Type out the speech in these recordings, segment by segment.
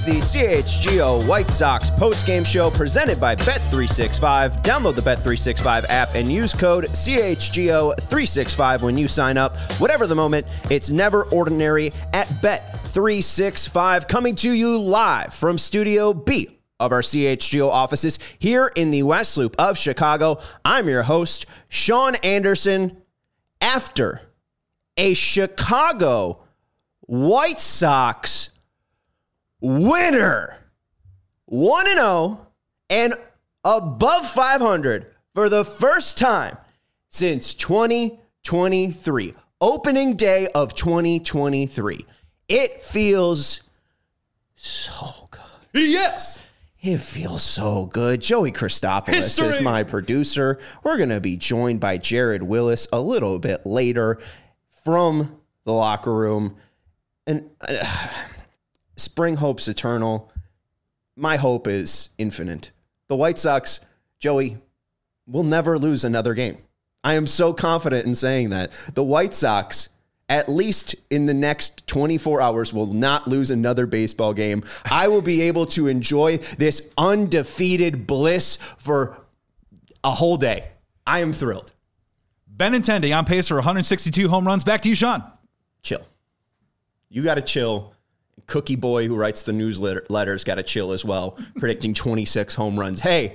is the CHGO White Sox postgame show presented by Bet365. Download the Bet365 app and use code CHGO365 when you sign up. Whatever the moment, it's never ordinary at Bet365. Coming to you live from Studio B of our CHGO offices here in the West Loop of Chicago. I'm your host, Sean Anderson. After a Chicago White Sox winner, 1-0 and above 500 for the first time since 2023, opening day of 2023. It feels so good. Yes. It feels so good. Joey Christopoulos is my producer. We're going to be joined by Jared Willis a little bit later from the locker room. And spring hope's eternal. My hope is infinite. The White Sox, Joey, will never lose another game. I am so confident in saying that. The White Sox, at least in the next 24 hours, will not lose another baseball game. I will be able to enjoy this undefeated bliss for a whole day. I am thrilled. Benintendi on pace for 162 home runs. Back to you, Sean. Chill. You got to chill. Cookie Boy, who writes the newsletters, got to chill as well, predicting 26 home runs. Hey,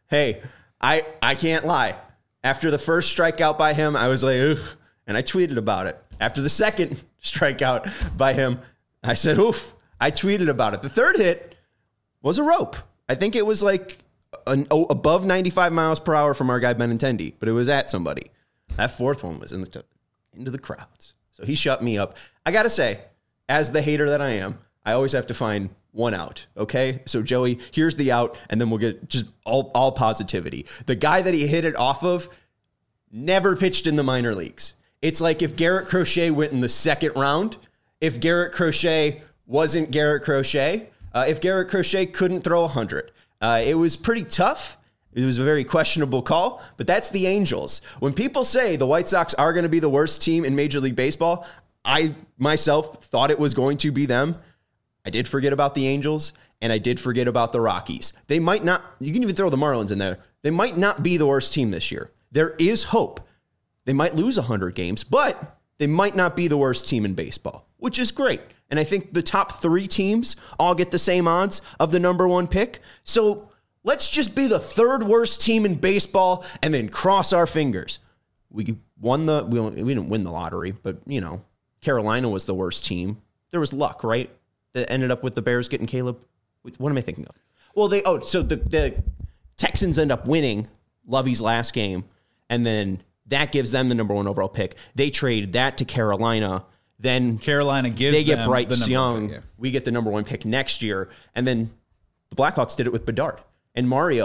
I can't lie. After the first strikeout by him, I was like, ugh, and I tweeted about it. After the second strikeout by him, I said, oof. I tweeted about it. The third hit was a rope. I think it was like above 95 miles per hour from our guy Benintendi, but it was at somebody. That fourth one was into the crowds. So he shut me up. I got to say, as the hater that I am, I always have to find one out, okay? So, Joey, here's the out, and then we'll get just all positivity. The guy that he hit it off of never pitched in the minor leagues. It's like if Garrett Crochet went in the second round, if Garrett Crochet wasn't Garrett Crochet, if Garrett Crochet couldn't throw 100. It was pretty tough. It was a very questionable call, but that's the Angels. When people say the White Sox are going to be the worst team in Major League Baseball, I myself thought it was going to be them. I did forget about the Angels, and I did forget about the Rockies. They might not, you can even throw the Marlins in there. They might not be the worst team this year. There is hope. They might lose 100 games, but they might not be the worst team in baseball, which is great. And I think the top three teams all get the same odds of the number one pick. So let's just be the third worst team in baseball and then cross our fingers. We didn't win the lottery, but, you know, Carolina was the worst team. There was luck, right? That ended up with the Bears getting Caleb. What am I thinking of? Well, so the Texans end up winning Lovey's last game, and then that gives them the number one overall pick. They trade that to Carolina. Then Carolina gives they get them Bryce the Young. pick, yeah. We We get the number one pick next year, and then the Blackhawks did it with Bedard and Mario.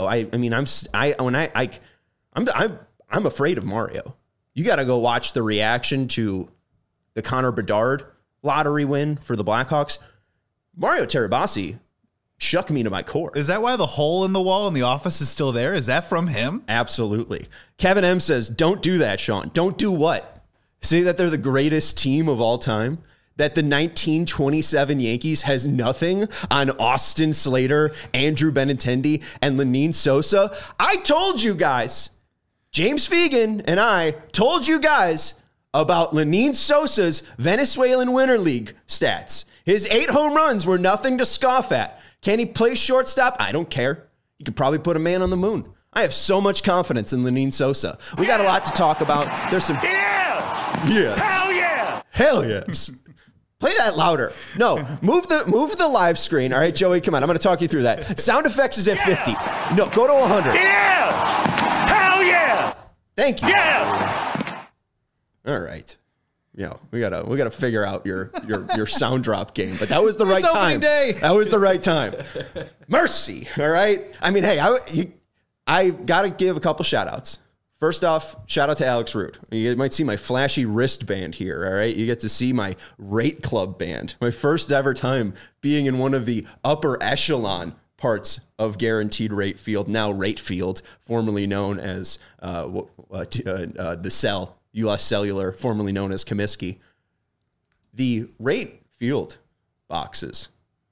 I'm afraid of Mario. You got to go watch the reaction to the Connor Bedard lottery win for the Blackhawks. Mario Terabasi shook me to my core. Is that why the hole in the wall in the office is still there? Is that from him? Absolutely. Kevin M says, don't do that, Sean. Don't do what? Say that they're the greatest team of all time? That the 1927 Yankees has nothing on Austin Slater, Andrew Benintendi, and Lenyn Sosa? I told you guys, James Fegan and I told you guys about Lenyn Sosa's Venezuelan Winter League stats. His 8 home runs were nothing to scoff at. Can he play shortstop? I don't care. He could probably put a man on the moon. I have so much confidence in Lenyn Sosa. We got a lot to talk about. There's some... Yeah! Hell yeah! Hell yes! Play that louder. No, move the live screen. All right, Joey, come on. I'm going to talk you through that. Sound effects is at 50. No, go to 100. Yeah! Hell yeah! Thank you. Yeah! All right. You know, we gotta figure out your sound drop game, but that was the right time. Day. That was the right time. Mercy. All right. I mean, hey, I gotta give a couple shout outs. First off, shout out to Alex Root. You might see my flashy wristband here. All right. You get to see my Rate Club band. My first ever time being in one of the upper echelon parts of Guaranteed Rate Field, now Rate Field, formerly known as the Cell. U.S. Cellular, formerly known as Comiskey. The Rate Field boxes,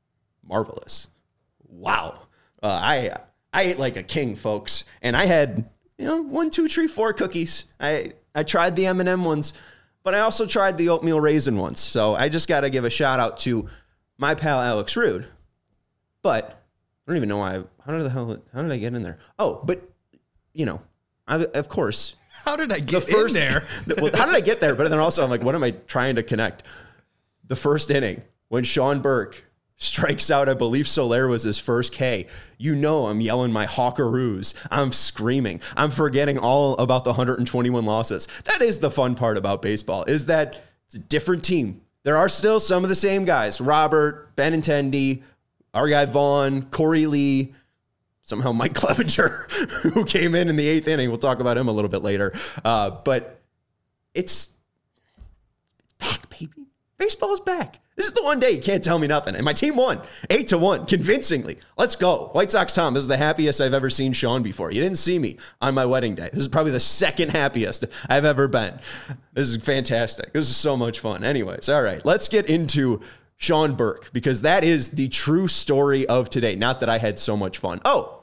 marvelous. Wow. I ate like a king, folks. And I had, 1, 2, 3, 4 cookies. I tried the M&M ones, but I also tried the oatmeal raisin ones. So I just got to give a shout out to my pal Alex Rude. But I don't even know why. How did I get in there? Oh, but, of course. How did I get in there? Well, how did I get there? But then also I'm like, what am I trying to connect? The first inning when Sean Burke strikes out, I believe Soler was his first K. I'm yelling my Hawkeroos. I'm screaming. I'm forgetting all about the 121 losses. That is the fun part about baseball, is that it's a different team. There are still some of the same guys. Robert, Benintendi, our guy Vaughn, Corey Lee, somehow Mike Clevenger, who came in the 8th inning. We'll talk about him a little bit later. But it's back, baby. Baseball is back. This is the one day you can't tell me nothing. And my team won 8-1 convincingly. Let's go. White Sox Tom, this is the happiest I've ever seen Sean before. You didn't see me on my wedding day. This is probably the second happiest I've ever been. This is fantastic. This is so much fun. Anyways, all right, let's get into Sean Burke, because that is the true story of today. Not that I had so much fun. Oh,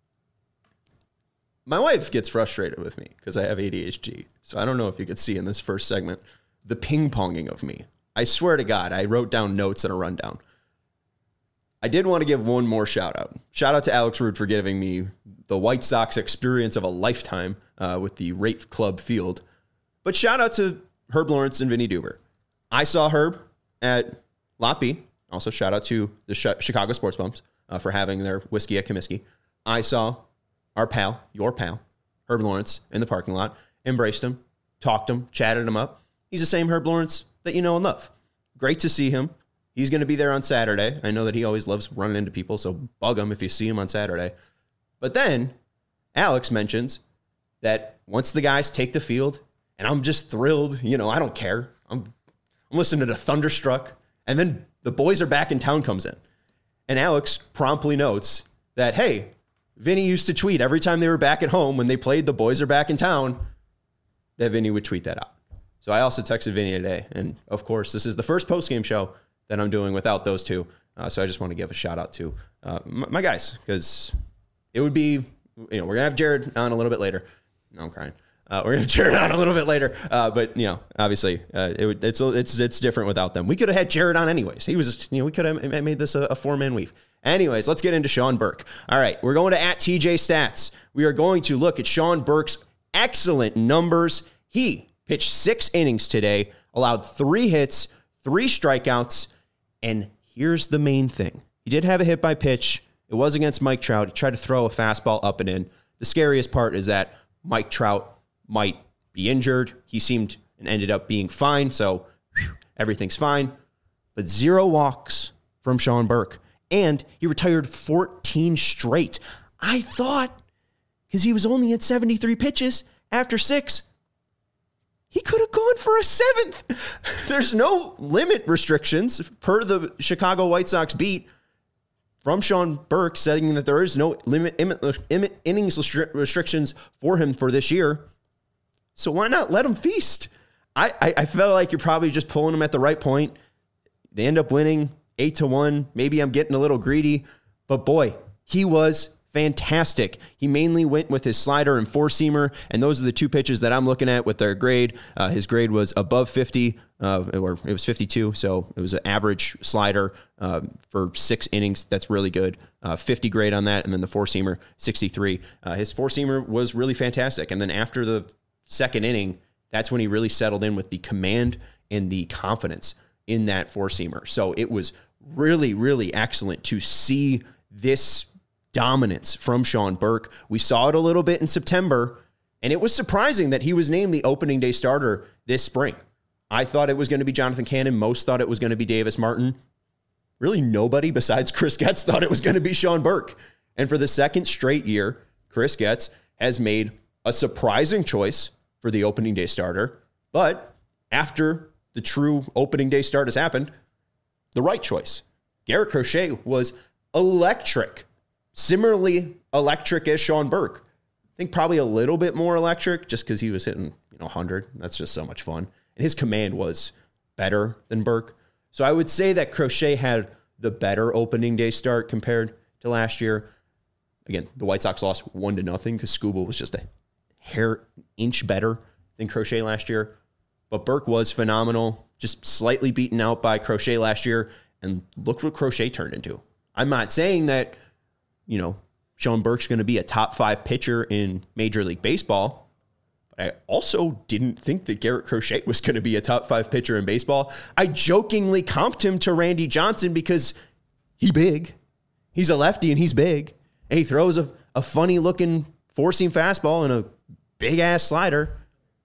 my wife gets frustrated with me because I have ADHD. So I don't know if you could see in this first segment the ping-ponging of me. I swear to God, I wrote down notes and a rundown. I did want to give one more shout out. Shout out to Alex Rude for giving me the White Sox experience of a lifetime with the Rate Club Field. But shout out to Herb Lawrence and Vinny Duber. I saw Herb at Lot B. Also shout out to the Chicago Sports Bumps for having their whiskey at Comiskey. I saw our pal, your pal, Herb Lawrence in the parking lot, embraced him, talked him, chatted him up. He's the same Herb Lawrence that you know and love. Great to see him. He's going to be there on Saturday. I know that he always loves running into people, so bug him if you see him on Saturday. But then Alex mentions that once the guys take the field, and I'm just thrilled, I don't care. I'm listening to Thunderstruck, and then the boys are back in town comes in. And Alex promptly notes that, hey, Vinny used to tweet every time they were back at home when they played The Boys Are Back in Town, that Vinny would tweet that out. So I also texted Vinny today. And of course, this is the first postgame show that I'm doing without those two. So I just want to give a shout out to my guys, because it would be, we're going to have Jared on a little bit later. No, I'm crying. We're going to have Jared on a little bit later. But, obviously it's different without them. We could have had Jared on anyways. He was, we could have made this a 4-man weave. Anyways, let's get into Sean Burke. All right, we're going to @TJ Stats. We are going to look at Sean Burke's excellent numbers. He pitched 6 innings today, allowed 3 hits, 3 strikeouts, and here's the main thing. He did have a hit by pitch. It was against Mike Trout. He tried to throw a fastball up and in. The scariest part is that Mike Trout might be injured. He seemed and ended up being fine, so everything's fine. But 0 walks from Sean Burke. And he retired 14 straight. I thought, because he was only at 73 pitches after 6, he could have gone for a 7th. There's no limit restrictions per the Chicago White Sox beat from Sean Burke, saying that there is no limit innings restrictions for him for this year. So why not let him feast? I felt like you're probably just pulling him at the right point. They end up winning 8-1. Maybe I'm getting a little greedy, but boy, he was fantastic. He mainly went with his slider and 4-seamer, and those are the 2 pitches that I'm looking at with their grade. His grade was above 50, or it was 52, so it was an average slider for 6 innings. That's really good. 50 grade on that, and then the 4-seamer, 63. His 4-seamer was really fantastic, and then after the 2nd inning, that's when he really settled in with the command and the confidence in that 4-seamer. So it was really, really excellent to see this dominance from Sean Burke. We saw it a little bit in September, and it was surprising that he was named the opening day starter this spring. I thought it was going to be Jonathan Cannon. Most thought it was going to be Davis Martin. Really nobody besides Chris Getz thought it was going to be Sean Burke. And for the 2nd straight year, Chris Getz has made a surprising choice for the opening day starter. But after the true opening day start has happened, the right choice. Garrett Crochet was electric. Similarly electric as Sean Burke. I think probably a little bit more electric just because he was hitting 100. That's just so much fun. And his command was better than Burke. So I would say that Crochet had the better opening day start compared to last year. Again, the White Sox lost 1-0 because Skubal was just a inch better than Crochet last year. But Burke was phenomenal, just slightly beaten out by Crochet last year. And look what Crochet turned into. I'm not saying that, Sean Burke's going to be a top 5 pitcher in Major League Baseball. But I also didn't think that Garrett Crochet was going to be a top 5 pitcher in baseball. I jokingly comped him to Randy Johnson because he's big. He's a lefty and he's big. And he throws a funny looking four-seam fastball and a big ass slider.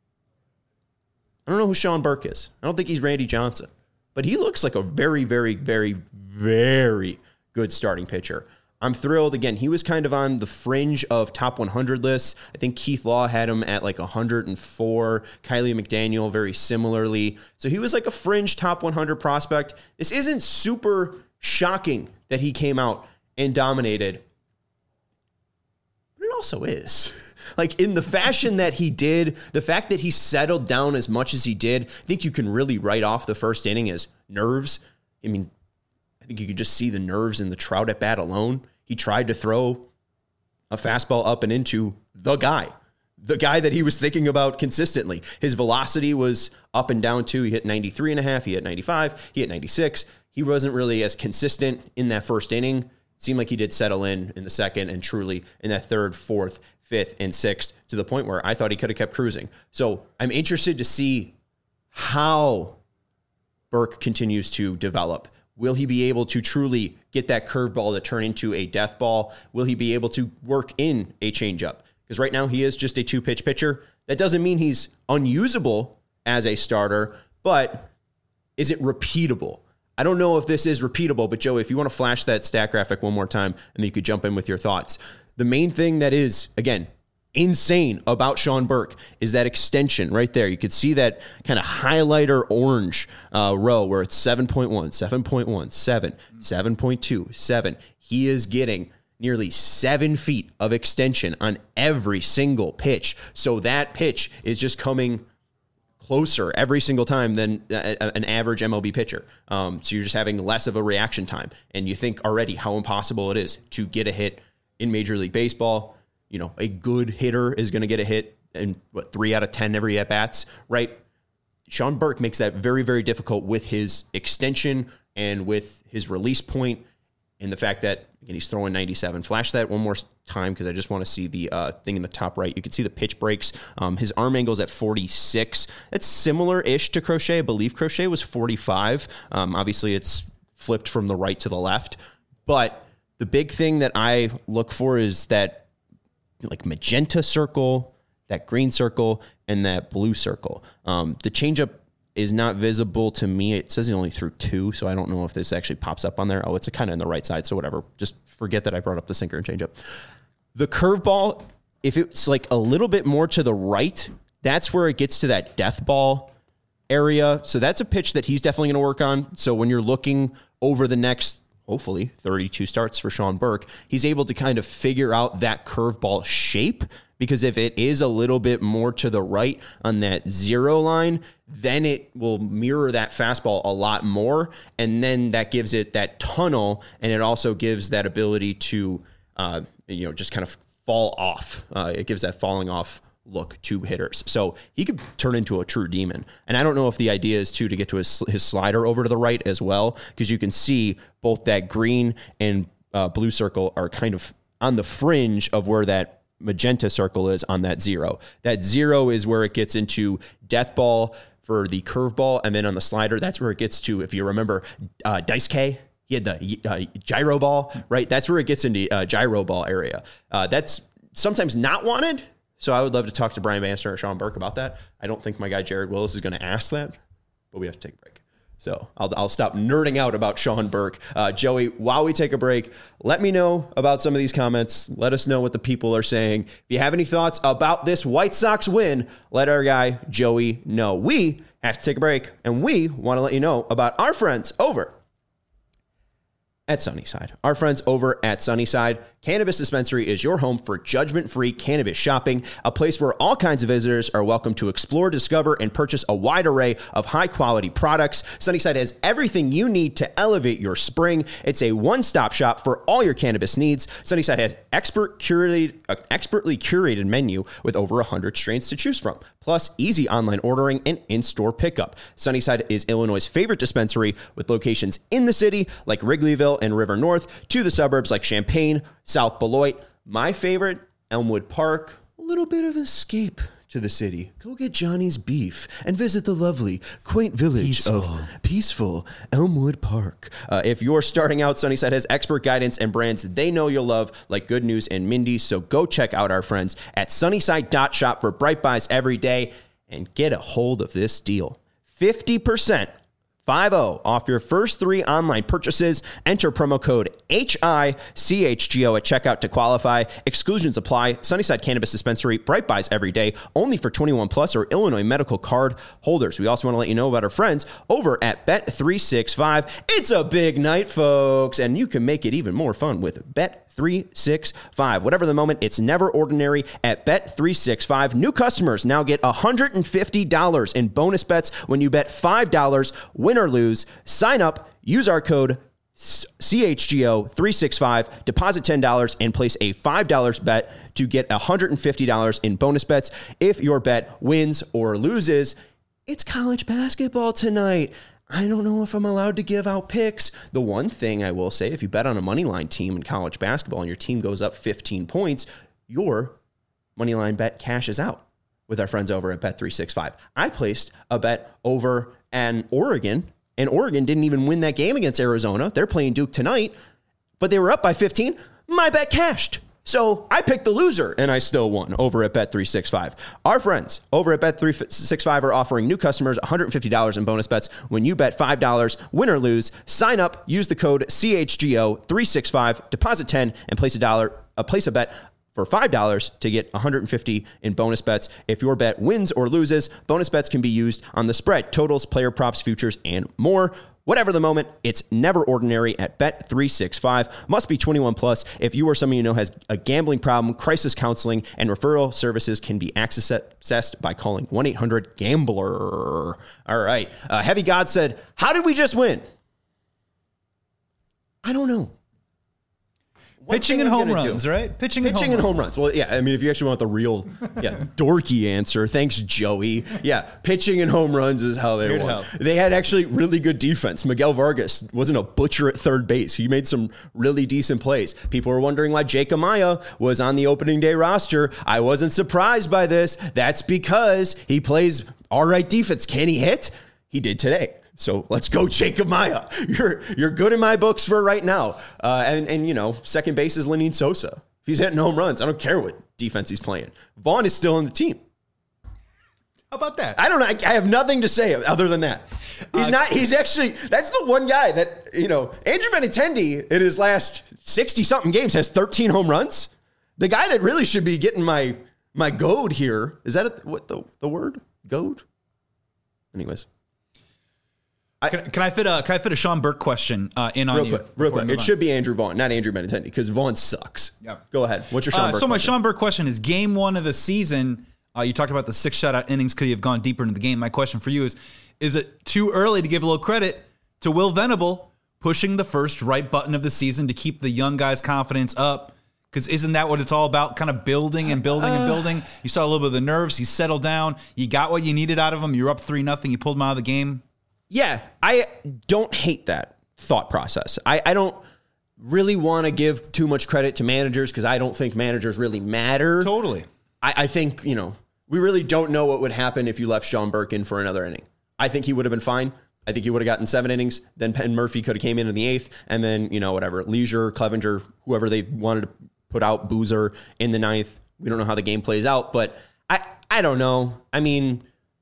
I don't know who Sean Burke is. I don't think he's Randy Johnson. But he looks like a very, very, very, very good starting pitcher. I'm thrilled. Again, he was kind of on the fringe of top 100 lists. I think Keith Law had him at like 104. Kylie McDaniel very similarly. So he was like a fringe top 100 prospect. This isn't super shocking that he came out and dominated. But it also is. Like in the fashion that he did, the fact that he settled down as much as he did, I think you can really write off the first inning as nerves. I mean, I think you could just see the nerves in the Trout at bat alone. He tried to throw a fastball up and into the guy that he was thinking about consistently. His velocity was up and down too. He hit 93.5, he hit 95, he hit 96. He wasn't really as consistent in that first inning. It seemed like he did settle in the second and truly in that third, fourth, fifth, and sixth to the point where I thought he could have kept cruising. So I'm interested to see how Burke continues to develop. Will he be able to truly get that curveball to turn into a death ball? Will he be able to work in a changeup? Because right now he is just a 2-pitch pitcher. That doesn't mean he's unusable as a starter, but is it repeatable? I don't know if this is repeatable, but Joey, if you want to flash that stat graphic one more time, and then you could jump in with your thoughts. The main thing that is, again, insane about Sean Burke is that extension right there. You could see that kind of highlighter orange row where it's 7.1, 7.1, 7, 7.2, 7. He is getting nearly 7 feet of extension on every single pitch. So that pitch is just coming closer every single time than an average MLB pitcher. So you're just having less of a reaction time. And you think already how impossible it is to get a hit in Major League Baseball. A good hitter is going to get a hit in 3 out of 10 every at-bats, right? Sean Burke makes that very, very difficult with his extension and with his release point and the fact that, again, he's throwing 97. Flash that one more time because I just want to see the thing in the top right. You can see the pitch breaks. His arm angle's at 46. That's similar-ish to Crochet. I believe Crochet was 45. Obviously, it's flipped from the right to the left. But the big thing that I look for is that like magenta circle, that green circle, and that blue circle. The changeup is not visible to me. It says he only threw 2, so I don't know if this actually pops up on there. Oh, it's kind of on the right side, so whatever. Just forget that I brought up the sinker and changeup. The curveball, if it's like a little bit more to the right, that's where it gets to that death ball area. So that's a pitch that he's definitely going to work on. So when you're looking over the next, hopefully, 32 starts for Sean Burke, he's able to kind of figure out that curveball shape, because if it is a little bit more to the right on that 0 line, then it will mirror that fastball a lot more, and then that gives it that tunnel, and it also gives that ability to, just kind of fall off. It gives that falling off look to hitters. So he could turn into a true demon. And I don't know if the idea is to get to his slider over to the right as well, because you can see both that green and blue circle are kind of on the fringe of where that magenta circle is on that 0. That 0 is where it gets into death ball for the curveball. And then on the slider, that's where it gets to, if you remember, Dice K. He had the gyro ball, right? That's where it gets into gyro ball area. That's sometimes not wanted. So I would love to talk to Brian Bannister or Sean Burke about that. I don't think my guy Jared Willis is going to ask that, but we have to take a break. So I'll stop nerding out about Sean Burke. Joey, while we take a break, let me know about some of these comments. Let us know what the people are saying. If you have any thoughts about this White Sox win, let our guy Joey know. We have to take a break, and we want to let you know about our friends over at Sunnyside. Our friends over at Sunnyside Cannabis Dispensary is your home for judgment-free cannabis shopping, a place where all kinds of visitors are welcome to explore, discover, and purchase a wide array of high-quality products. Sunnyside has everything you need to elevate your spring. It's a one-stop shop for all your cannabis needs. Sunnyside has expertly curated menu with over 100 strains to choose from, plus easy online ordering and in-store pickup. Sunnyside is Illinois' favorite dispensary, with locations in the city like Wrigleyville and River North, to the suburbs like Champaign, South Beloit. My favorite, Elmwood Park. A little bit of escape to the city. Go get Johnny's beef and visit the lovely, quaint village of peaceful Elmwood Park. If you're starting out, Sunnyside has expert guidance and brands they know you'll love, like Good News and Mindy's. So go check out our friends at sunnyside.shop for bright buys every day and get a hold of this deal. 50% 50 off your first 3 online purchases. Enter promo code HICHGO at checkout to qualify. Exclusions apply. Sunnyside Cannabis Dispensary, bright buys every day, only for 21 plus or Illinois medical card holders. We also want to let you know about our friends over at Bet365. It's a big night, folks, and you can make it even more fun with Bet365. Whatever the moment, it's never ordinary at Bet365. New customers now get $150 in bonus bets when you bet $5, win or lose. Sign up, use our code CHGO365, deposit $10 and place a $5 bet to get $150 in bonus bets if your bet wins or loses. It's college basketball tonight. I don't know if I'm allowed to give out picks. The one thing I will say, if you bet on a moneyline team in college basketball and your team goes up 15 points, your moneyline bet cashes out with our friends over at Bet365. I placed a bet over an Oregon, and Oregon didn't even win that game against Arizona. They're playing Duke tonight, but they were up by 15. My bet cashed. So I picked the loser, and I still won over at Bet365. Our friends over at Bet365 are offering new customers $150 in bonus bets when you bet $5, win or lose. Sign up, use the code CHGO365, deposit $10, and place a bet for $5 to get $150 in bonus bets. If your bet wins or loses, bonus bets can be used on the spread, totals, player props, futures, and more. Whatever the moment, it's never ordinary at Bet365. Must be 21 plus. If you or someone you know has a gambling problem, crisis counseling and referral services can be accessed by calling 1-800-GAMBLER. All right. Heavy God said, how did we just win? I don't know. Pitching and home runs, right? Pitching and home runs. Well, yeah, I mean, if you actually want the real, dorky answer, thanks, Joey. Yeah, pitching and home runs is how they won. They had actually really good defense. Miguel Vargas wasn't a butcher at third base. He made some really decent plays. People were wondering why Jake Amaya was on the opening day roster. I wasn't surprised by this. That's because he plays all right defense. Can he hit? He did today. So let's go, Jacob Maya. You're good in my books for right now. And you know, second base is Lenyn Sosa. If he's hitting home runs, I don't care what defense he's playing. Vaughn is still on the team. How about that? I don't know. I have nothing to say other than that. He's actually, that's the one guy that, you know, Andrew Benintendi in his last 60-something games has 13 home runs. The guy that really should be getting my goad here, is that what the word? Goad? Anyways. Can I fit a Sean Burke question in on you? Real quick. It should be Andrew Vaughn, not Andrew Benintendi, because Vaughn sucks. Yeah. Go ahead. What's your Sean Burke question? My Sean Burke question is, game 1 of the season, you talked about the 6 shutout innings. Could he have gone deeper into the game? My question for you is it too early to give a little credit to Will Venable pushing the first right button of the season to keep the young guys' confidence up? Because isn't that what it's all about? Kind of building and building and building. You saw a little bit of the nerves. He settled down. You got what you needed out of him. You're up 3-0. You pulled him out of the game. Yeah, I don't hate that thought process. I don't really want to give too much credit to managers because I don't think managers really matter. Totally. I think, you know, we really don't know what would happen if you left Sean Burke in for another inning. I think he would have been fine. I think he would have gotten 7 innings. Then Penn Murphy could have came in the 8th. And then, you know, whatever, Leisure, Clevenger, whoever they wanted to put out, Boozer in the 9th. We don't know how the game plays out, but I don't know. I mean,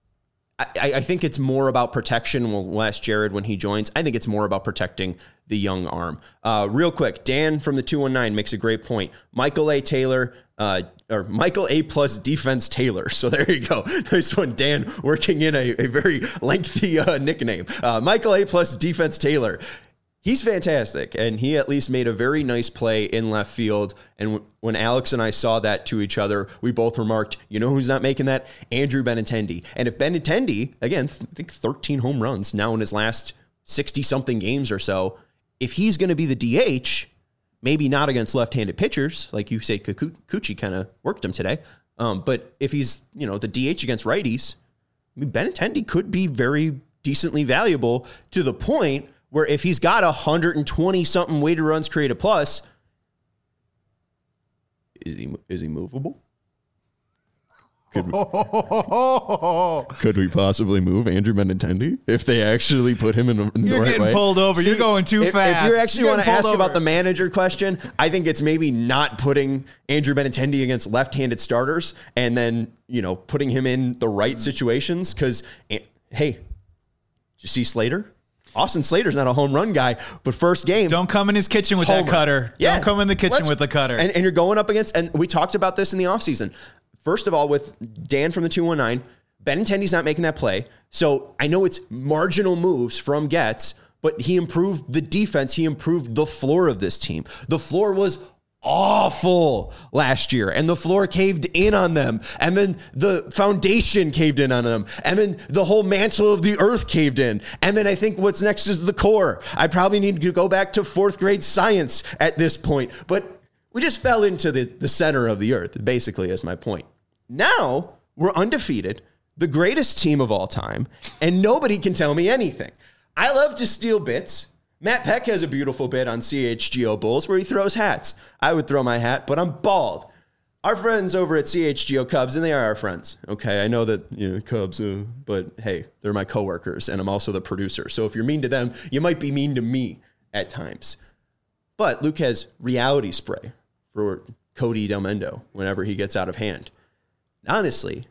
I think it's more about protection. We'll ask Jared when he joins. I think it's more about protecting the young arm. Real quick, Dan from the 219 makes a great point. Michael A. Taylor, or Michael A. plus defense Taylor. So there you go. Nice one, Dan, working in a very lengthy nickname. Michael A. plus defense Taylor. He's fantastic, and he at least made a very nice play in left field. And when Alex and I saw that to each other, we both remarked, you know who's not making that? Andrew Benintendi. And if Benintendi, again, I think 13 home runs now in his last 60-something games or so, if he's going to be the DH, maybe not against left-handed pitchers, like you say, Kikuchi kind of worked him today. But if he's, the DH against righties, I mean, Benintendi could be very decently valuable to the point where if he's got 120-something weighted runs created plus, is he movable? Could we possibly move Andrew Benintendi if they actually put him in the right way? You're getting pulled over. You're going too fast. If you actually want to ask about the manager question, I think it's maybe not putting Andrew Benintendi against left-handed starters and then, putting him in the right situations. Because, hey, did you see Slater? Austin Slater's not a home run guy, but first game. Don't come in his kitchen with that cutter. Yeah. Don't come in the kitchen with the cutter. And you're going up against, and we talked about this in the offseason. First of all, with Dan from the 219, Benintendi's not making that play. So I know it's marginal moves from Getz, but he improved the defense. He improved the floor of this team. The floor was awful last year, and the floor caved in on them, and then the foundation caved in on them, and then the whole mantle of the earth caved in, and then I think what's next is the core. I probably need to go back to 4th grade science at this point, but we just fell into the center of the earth, basically, is my point. Now we're undefeated, the greatest team of all time, and nobody can tell me anything. I love to steal bits. Matt Peck has a beautiful bit on CHGO Bulls where he throws hats. I would throw my hat, but I'm bald. Our friends over at CHGO Cubs, and they are our friends. Okay, I know that Cubs, but hey, they're my coworkers, and I'm also the producer. So if you're mean to them, you might be mean to me at times. But Luke has reality spray for Cody Delmendo whenever he gets out of hand. Honestly,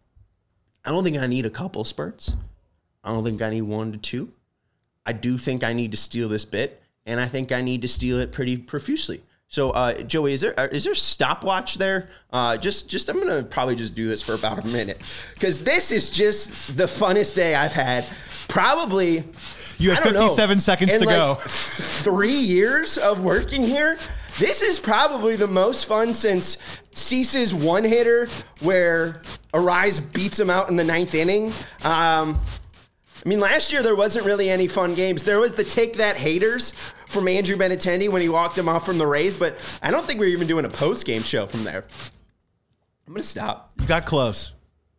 I don't think I need a couple spurts. I don't think I need 1 to 2. I do think I need to steal this bit, and I think I need to steal it pretty profusely. So, Joey, is there a stopwatch there? I'm gonna probably just do this for about a minute because this is just the funnest day I've had. Probably, you have 57 seconds to go. 3 years of working here. This is probably the most fun since Cease's one-hitter where Arise beats him out in the 9th inning. Last year there wasn't really any fun games. There was the Take That Haters from Andrew Benintendi when he walked him off from the Rays, but I don't think we're even doing a post-game show from there. I'm going to stop. You got close.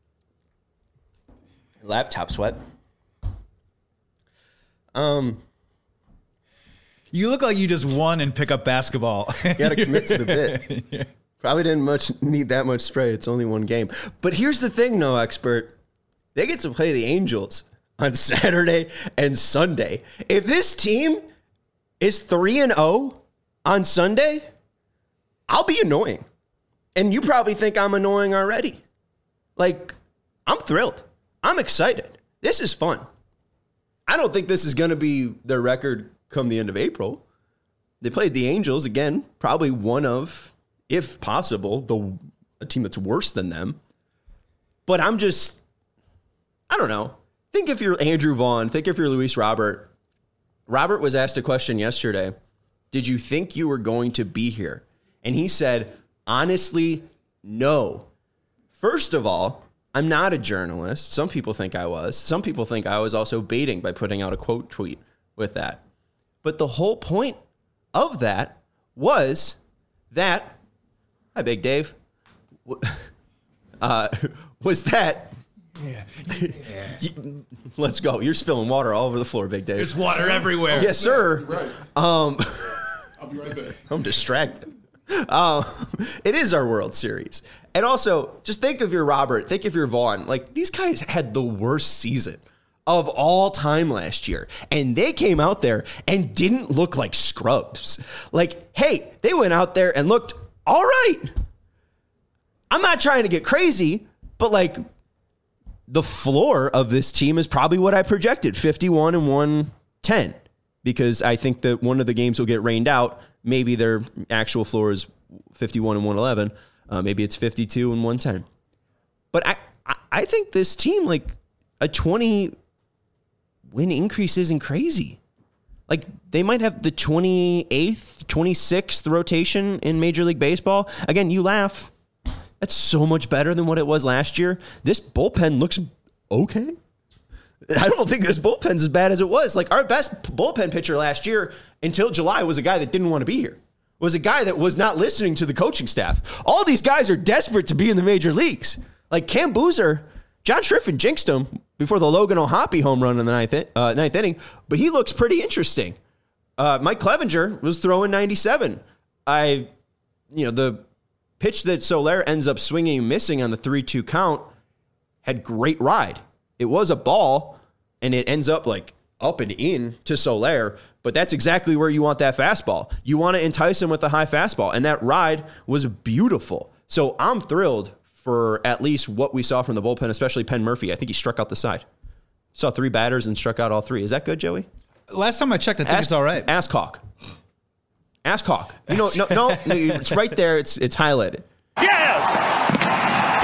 Laptop sweat. You look like you just won in pickup basketball. You got to commit to the bit. Yeah. Probably didn't need that much spray. It's only one game. But here's the thing, no expert. They get to play the Angels on Saturday and Sunday. If this team is 3-0 on Sunday, I'll be annoying. And you probably think I'm annoying already. I'm thrilled. I'm excited. This is fun. I don't think this is going to be their record come the end of April. They played the Angels, again, probably one of, if possible, a team that's worse than them. But I don't know. Think if you're Andrew Vaughn. Think if you're Luis Robert. Robert was asked a question yesterday. Did you think you were going to be here? And he said, honestly, no. First of all, I'm not a journalist. Some people think I was. Some people think I was also baiting by putting out a quote tweet with that. But the whole point of that was that, hi, Big Dave, was that, yeah. Let's go. You're spilling water all over the floor, Big Dave. There's water everywhere. Yes, sir. Right. I'll be right back. I'm distracted. It is our World Series. And also, just think of your Robert, think of your Vaughn. These guys had the worst season of all time last year. And they came out there and didn't look like scrubs. Hey, they went out there and looked all right. I'm not trying to get crazy, but the floor of this team is probably what I projected, 51 and 110, because I think that one of the games will get rained out. Maybe their actual floor is 51 and 111. Maybe it's 52 and 110. But I think this team, a 20 win increase isn't crazy. Like, they might have the 28th, 26th rotation in Major League Baseball. Again, you laugh. That's so much better than what it was last year. This bullpen looks okay. I don't think this bullpen's as bad as it was. Like, our best bullpen pitcher last year until July was a guy that didn't want to be here. Was a guy that was not listening to the coaching staff. All these guys are desperate to be in the major leagues. Like Cam Boozer, John Schriffen jinxed him before the Logan O'Hoppe home run in the ninth inning, but he looks pretty interesting. Mike Clevenger was throwing 97. The pitch that Soler ends up swinging and missing on the 3-2 count had great ride. It was a ball, and it ends up like up and in to Soler, but that's exactly where you want that fastball. You want to entice him with a high fastball, and that ride was beautiful. So I'm thrilled for at least what we saw from the bullpen, especially Penn Murphy. I think he struck out the side. Saw 3 batters and struck out all 3. Is that good, Joey? Last time I checked, I think it's all right. Ask Hawk. No, it's right there. It's highlighted. Yes!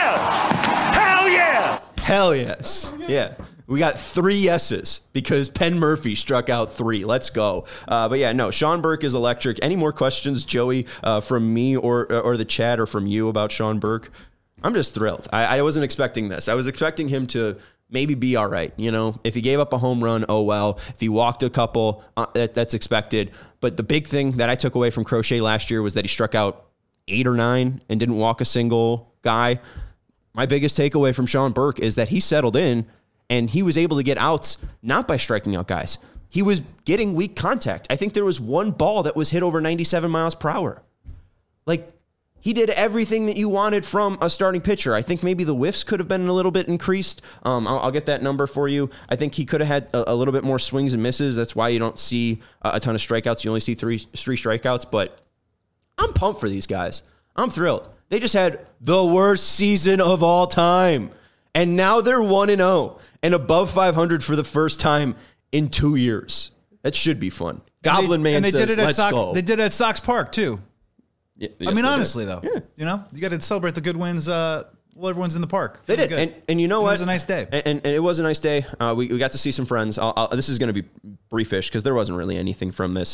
Yes! Hell yeah! Hell yes. Yeah. We got 3 yeses because Penn Murphy struck out 3. Let's go. But yeah, no, Sean Burke is electric. Any more questions, Joey, from me or the chat or from you about Sean Burke? I'm just thrilled. I wasn't expecting this. I was expecting him to maybe be all right. You know, if he gave up a home run, oh well. If he walked a couple, that's expected. But the big thing that I took away from Crochet last year was that he struck out 8 or 9 and didn't walk a single guy. My biggest takeaway from Sean Burke is that he settled in and he was able to get outs not by striking out guys. He was getting weak contact. I think there was 1 ball that was hit over 97 miles per hour. Like, he did everything that you wanted from a starting pitcher. I think maybe the whiffs could have been a little bit increased. I'll get that number for you. I think he could have had a little bit more swings and misses. That's why you don't see a ton of strikeouts. You only see three strikeouts, but I'm pumped for these guys. I'm thrilled. They just had the worst season of all time. And now they're 1-0 and above 500 for the first time in 2 years. That should be fun. Goblin Man says, let's go. They did it at Sox Park, too. Yeah, I mean, honestly, though, you know, you got to celebrate the good wins while everyone's in the park. They did. And you know what? It was a nice day. And it was a nice day. We got to see some friends. This is going to be briefish because there wasn't really anything from this.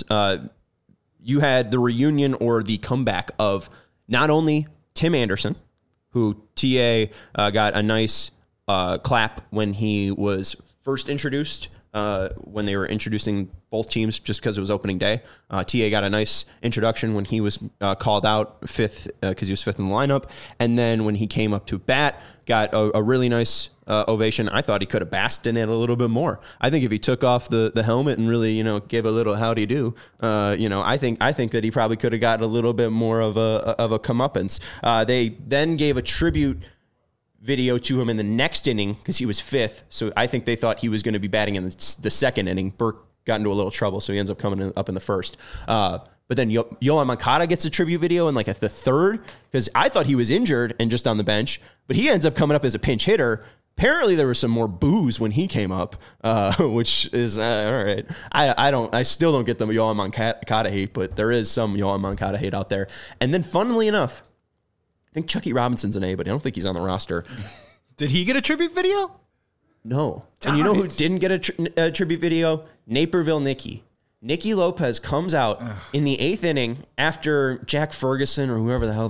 You had the reunion or the comeback of not only Tim Anderson, who TA got a nice clap when he was first introduced, when they were introducing both teams just because it was opening day. TA got a nice introduction when he was called out 5th because he was 5th in the lineup. And then when he came up to bat, got a really nice ovation. I thought he could have basked in it a little bit more. I think if he took off the helmet and really, gave a little howdy do, I think that he probably could have got a little bit more of a comeuppance. They then gave a tribute video to him in the next inning because he was 5th. So I think they thought he was going to be batting in the second inning. Burke got into a little trouble, so he ends up coming up in the first. But then Yoan Moncada gets a tribute video in like the 3rd because I thought he was injured and just on the bench, but he ends up coming up as a pinch hitter. Apparently there was some more boos when he came up, which is all right. I still don't get the Yoan Moncada hate, but there is some Yoan Moncada hate out there. And then funnily enough, I think Chucky Robinson's an A, but I don't think he's on the roster. Did he get a tribute video? No. And you know who didn't get a tribute video? Naperville Nicky. Nicky Lopez comes out in the 8th inning after Jack Ferguson or whoever the hell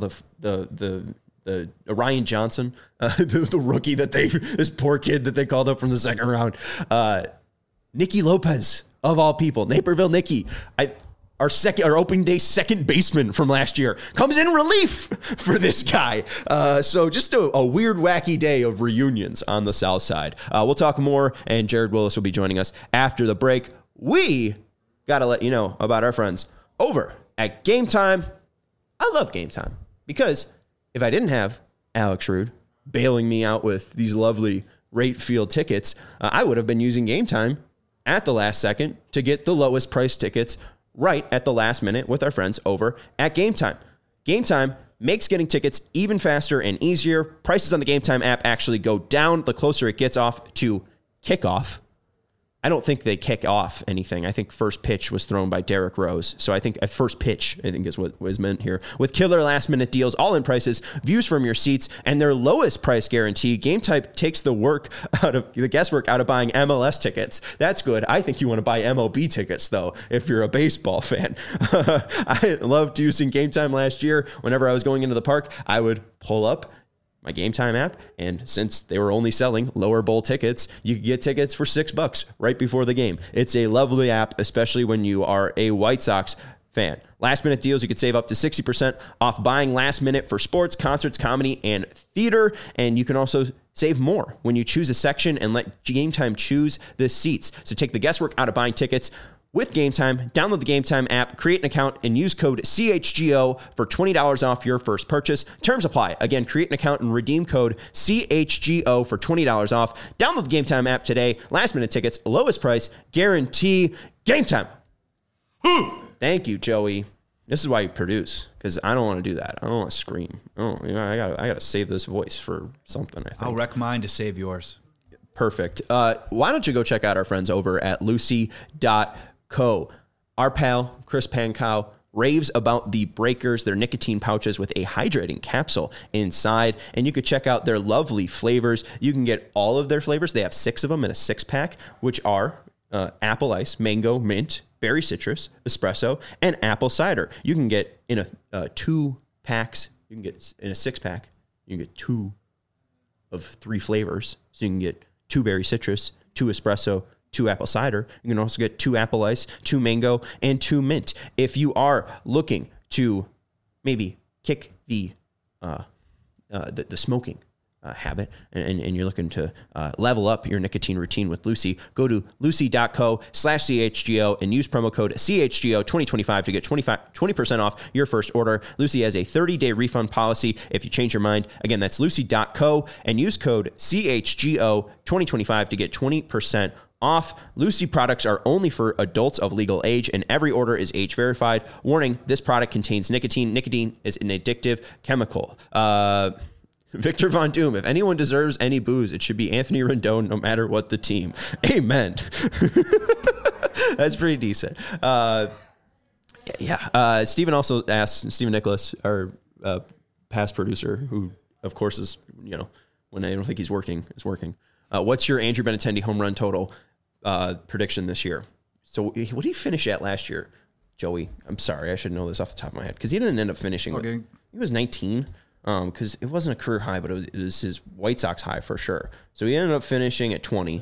the Ryan Johnson, the rookie this poor kid that they called up from the 2nd round. Nicky Lopez, of all people, Naperville Nicky, our opening day second baseman from last year, comes in relief for this guy. So just a weird, wacky day of reunions on the South Side. We'll talk more, and Jared Willis will be joining us after the break. We got to let you know about our friends over at Game Time. I love Game Time because if I didn't have Alex Rude bailing me out with these lovely rate field tickets, I would have been using Game Time at the last second to get the lowest price tickets right at the last minute with our friends over at Game Time. Game Time makes getting tickets even faster and easier. Prices on the Game Time app actually go down the closer it gets off to kickoff. I don't think they kick off anything. I think first pitch was thrown by Derrick Rose. So I think at first pitch, I think is what was meant here. With killer last minute deals, all in prices, views from your seats, and their lowest price guarantee, Game Time takes the guesswork out of buying MLS tickets. That's good. I think you want to buy MLB tickets though, if you're a baseball fan. I loved using Game Time last year. Whenever I was going into the park, I would pull up my Game Time app, and since they were only selling lower bowl tickets, you could get tickets for $6 right before the game. It's a lovely app, especially when you are a White Sox fan. Last minute deals, you could save up to 60% off buying last minute for sports, concerts, comedy, and theater. And you can also save more when you choose a section and let Game Time choose the seats. So take the guesswork out of buying tickets. With Game Time, download the Game Time app, create an account, and use code CHGO for $20 off your first purchase. Terms apply. Again, create an account and redeem code CHGO for $20 off. Download the Game Time app today. Last minute tickets, lowest price, guarantee. Game Time. Thank you, Joey. This is why you produce, because I don't want to do that. I don't want to scream. I gotta save this voice for something, I think. I'll wreck mine to save yours. Perfect. Why don't you go check out our friends over at Lucy.co. Our pal, Chris Pankow, raves about the Breakers, their nicotine pouches with a hydrating capsule inside. And you could check out their lovely flavors. You can get all of their flavors. They have 6 of them in a 6-pack, which are apple ice, mango, mint, berry citrus, espresso, and apple cider. You can get in a 2 packs. You can get in a 6-pack. You can get 2 of 3 flavors. So you can get 2 berry citrus, 2 espresso, 2 apple cider. You can also get 2 apple ice, 2 mango, and 2 mint. If you are looking to maybe kick the smoking habit and you're looking to level up your nicotine routine with Lucy, go to lucy.co/CHGO and use promo code CHGO 2025 to get 20% off your first order. Lucy has a 30-day refund policy if you change your mind. Again, that's lucy.co and use code CHGO 2025 to get 20% off. Lucy products are only for adults of legal age, and every order is age verified. Warning, this product contains nicotine. Nicotine is an addictive chemical. Victor Von Doom, if anyone deserves any booze, it should be Anthony Rendon, no matter what the team. Amen. That's pretty decent. Steven also asked, Steven Nicholas, our past producer, who, of course, is, when I don't think he's working, is working. What's your Andrew Benintendi home run total prediction this year? So what did he finish at last year, Joey? I'm sorry, I should know this off the top of my head, because he didn't end up finishing. Okay. He was 19. Because it wasn't a career high, but it was his White Sox high for sure. So he ended up finishing at 20.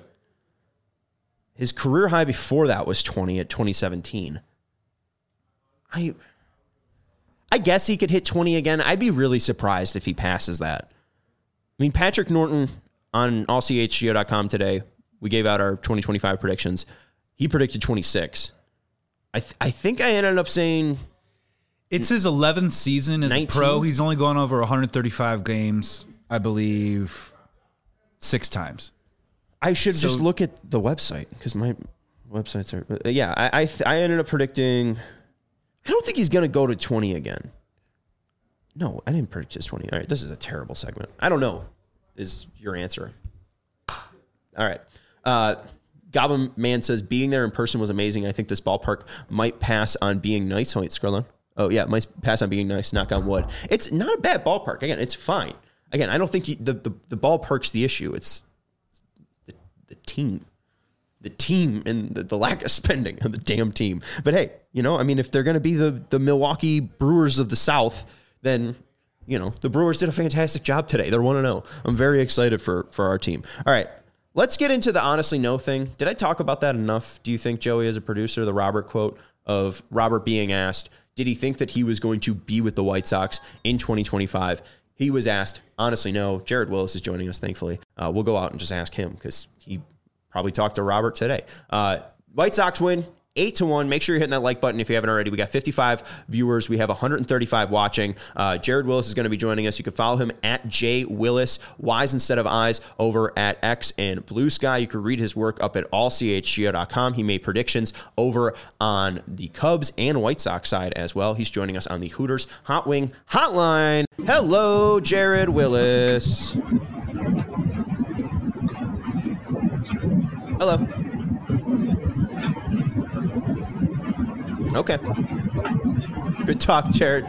His career high before that was 20 at 2017. I guess he could hit 20 again. I'd be really surprised if he passes that. I mean, Patrick Norton on allchgo.com today, we gave out our 2025 predictions. He predicted 26. I think I ended up saying... It's his 11th season as 19? a pro. He's only gone over 135 games, I believe, 6 times. I should just look at the website, because my websites are... I ended up predicting... I don't think he's going to go to 20 again. No, I didn't predict his 20. All right, this is a terrible segment. I don't know, is your answer. All right. Goblin Man says, being there in person was amazing. I think this ballpark might pass on being nice. Wait, Skrillex. Oh, yeah, might pass on being nice, knock on wood. It's not a bad ballpark. Again, it's fine. Again, I don't think the ballpark's the issue. It's the team. The team and the lack of spending on the damn team. But hey, if they're going to be the Milwaukee Brewers of the South, then, the Brewers did a fantastic job today. They're 1-0. I'm very excited for our team. All right, let's get into the honestly no thing. Did I talk about that enough, do you think, Joey, as a producer? The Robert quote of Robert being asked, did he think that he was going to be with the White Sox in 2025? He was asked, honestly, no. Jared Willis is joining us, thankfully. We'll go out and just ask him, because he probably talked to Robert today. White Sox win 8-1. Make sure you're hitting that like button if you haven't already. We got 55 viewers. We have 135 watching. Jared Willis is going to be joining us. You can follow him at JWillis, Y's instead of I's, over at X and Blue Sky. You can read his work up at allchgo.com. He made predictions over on the Cubs and White Sox side as well. He's joining us on the Hooters Hot Wing Hotline. Hello, Jared Willis. Hello. Okay. Good talk, Jared.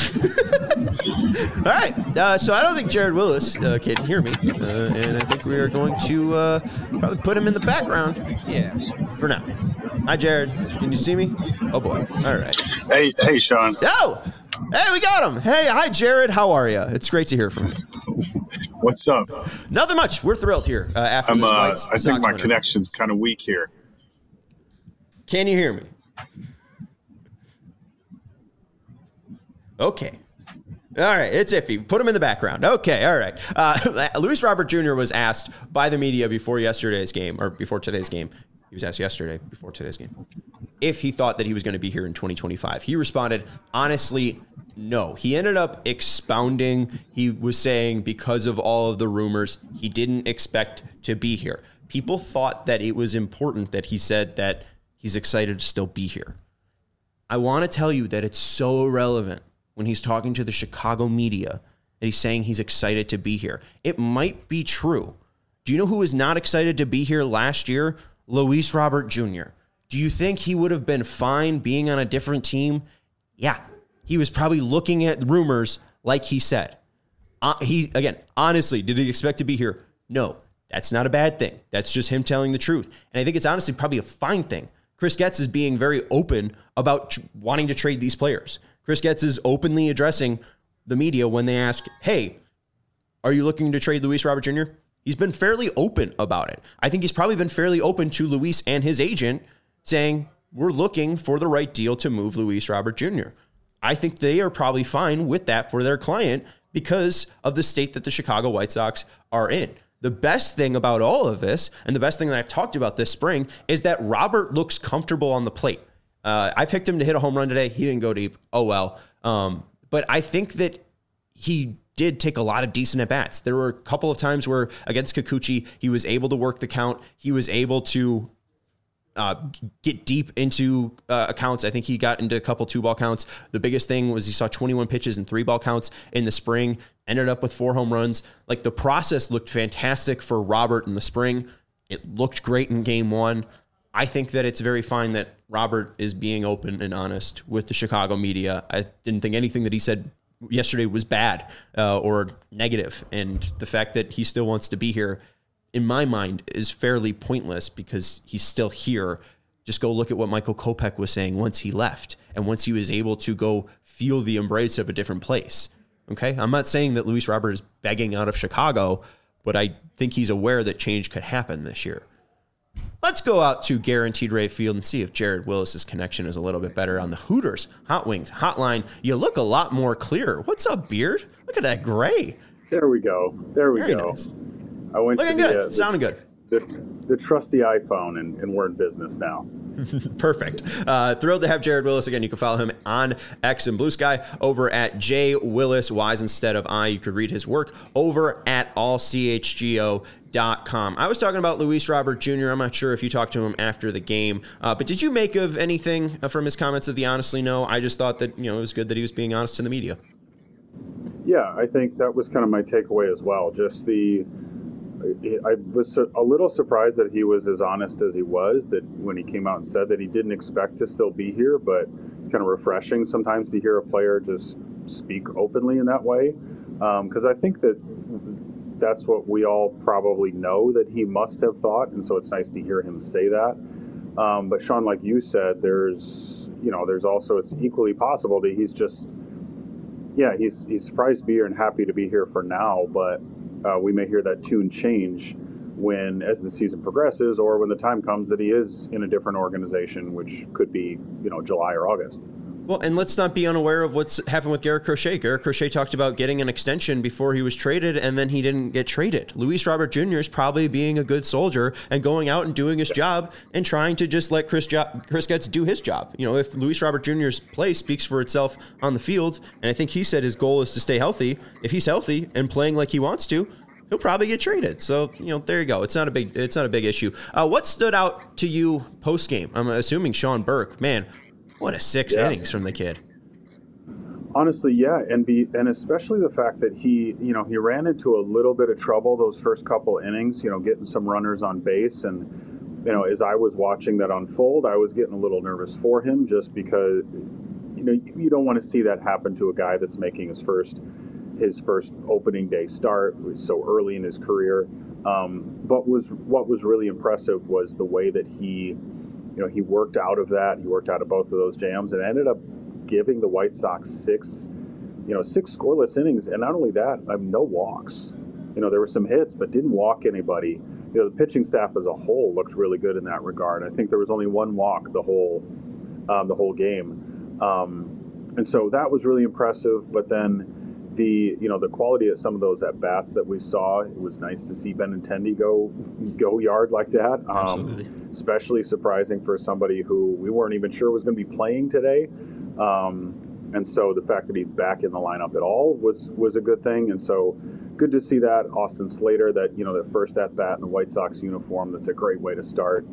All right. So I don't think Jared Willis can hear me. And I think we are going to probably put him in the background. Yeah. For now. Hi, Jared. Can you see me? Oh, boy. All right. Hey, Sean. Oh! Hey, we got him. Hey, hi, Jared. How are you? It's great to hear from you. What's up? Nothing much. We're thrilled here after this White I think my winner. connection's kind of weak here. Can you hear me? Okay. All right, it's iffy. Put him in the background. Okay, all right. Luis Robert Jr. was asked by the media before today's game. He was asked yesterday before today's game if he thought that he was going to be here in 2025. He responded, honestly, no. He ended up expounding. He was saying because of all of the rumors, he didn't expect to be here. People thought that it was important that he said that he's excited to still be here. I want to tell you that it's so irrelevant when he's talking to the Chicago media that he's saying he's excited to be here. It might be true. Do you know who was not excited to be here last year? Luis Robert Jr. Do you think he would have been fine being on a different team? Yeah. He was probably looking at rumors like he said. Honestly, did he expect to be here? No. That's not a bad thing. That's just him telling the truth. And I think it's honestly probably a fine thing. Chris Getz is being very open about wanting to trade these players. Chris Getz is openly addressing the media when they ask, hey, are you looking to trade Luis Robert Jr.? He's been fairly open about it. I think he's probably been fairly open to Luis and his agent saying, we're looking for the right deal to move Luis Robert Jr. I think they are probably fine with that for their client because of the state that the Chicago White Sox are in. The best thing about all of this, and the best thing that I've talked about this spring, is that Robert looks comfortable on the plate. I picked him to hit a home run today. He didn't go deep. Oh, well. But I think that he did take a lot of decent at-bats. There were a couple of times where against Kikuchi, he was able to work the count. He was able to get deep into accounts. I think he got into a couple 2-ball counts. The biggest thing was he saw 21 pitches and 3-ball counts in the spring, ended up with 4 home runs. Like, the process looked fantastic for Robert in the spring. It looked great in game 1. I think that it's very fine that Robert is being open and honest with the Chicago media. I didn't think anything that he said yesterday was bad or negative. And the fact that he still wants to be here, in my mind, is fairly pointless because he's still here. Just go look at what Michael Kopech was saying once he left and once he was able to go feel the embrace of a different place. Okay? I'm not saying that Luis Robert is begging out of Chicago, but I think he's aware that change could happen this year. Let's go out to Guaranteed Rate Field and see if Jared Willis's connection is a little bit better on the Hooters Hot Wings hotline. You look a lot more clear. What's up, Beard? Look at that gray. There we go. Very go. Nice. I went looking to good. Sounding good. The trusty iPhone, and we're in business now. Perfect. Thrilled to have Jared Willis again. You can follow him on X and Blue Sky over at J Willis Wise instead of I. You could read his work over at allchgo.com. I was talking about Luis Robert Jr. I'm not sure if you talked to him after the game, but did you make of anything from his comments of the honestly no? I just thought that, it was good that he was being honest to the media. Yeah, I think that was kind of my takeaway as well. Just I was a little surprised that he was as honest as he was, that when he came out and said that he didn't expect to still be here, but it's kind of refreshing sometimes to hear a player just speak openly in that way. Because I think that's what we all probably know that he must have thought, and so it's nice to hear him say that. But Sean, like you said, there's also, it's equally possible that he's just, he's surprised to be here and happy to be here for now, but we may hear that tune change as the season progresses, or when the time comes that he is in a different organization, which could be, July or August. Well, and let's not be unaware of what's happened with Garrett Crochet. Garrett Crochet talked about getting an extension before he was traded, and then he didn't get traded. Luis Robert Jr. is probably being a good soldier and going out and doing his job and trying to just let Chris Getz do his job. If Luis Robert Jr.'s play speaks for itself on the field, and I think he said his goal is to stay healthy, if he's healthy and playing like he wants to, he'll probably get traded. So, there you go. It's not a big issue. What stood out to you post game? I'm assuming Sean Burke. Man, what a 6 innings from the kid. Honestly, yeah, and especially the fact that he ran into a little bit of trouble those first couple innings, getting some runners on base, and as I was watching that unfold, I was getting a little nervous for him, just because you don't want to see that happen to a guy that's making his first opening day start so early in his career. But what was really impressive was the way that he worked out of that. He worked out of both of those jams and ended up giving the White Sox six scoreless innings, and not only that, no walks. There were some hits, but didn't walk anybody. The pitching staff as a whole looked really good in that regard. I think there was only one walk the whole game, and so that was really impressive. But then the quality of some of those at bats that we saw, it was nice to see Benintendi go yard like that. Absolutely. Especially surprising for somebody who we weren't even sure was going to be playing today. And so the fact that he's back in the lineup at all was a good thing. And so good to see that. Austin Slater, that their first at bat in the White Sox uniform, that's a great way to start.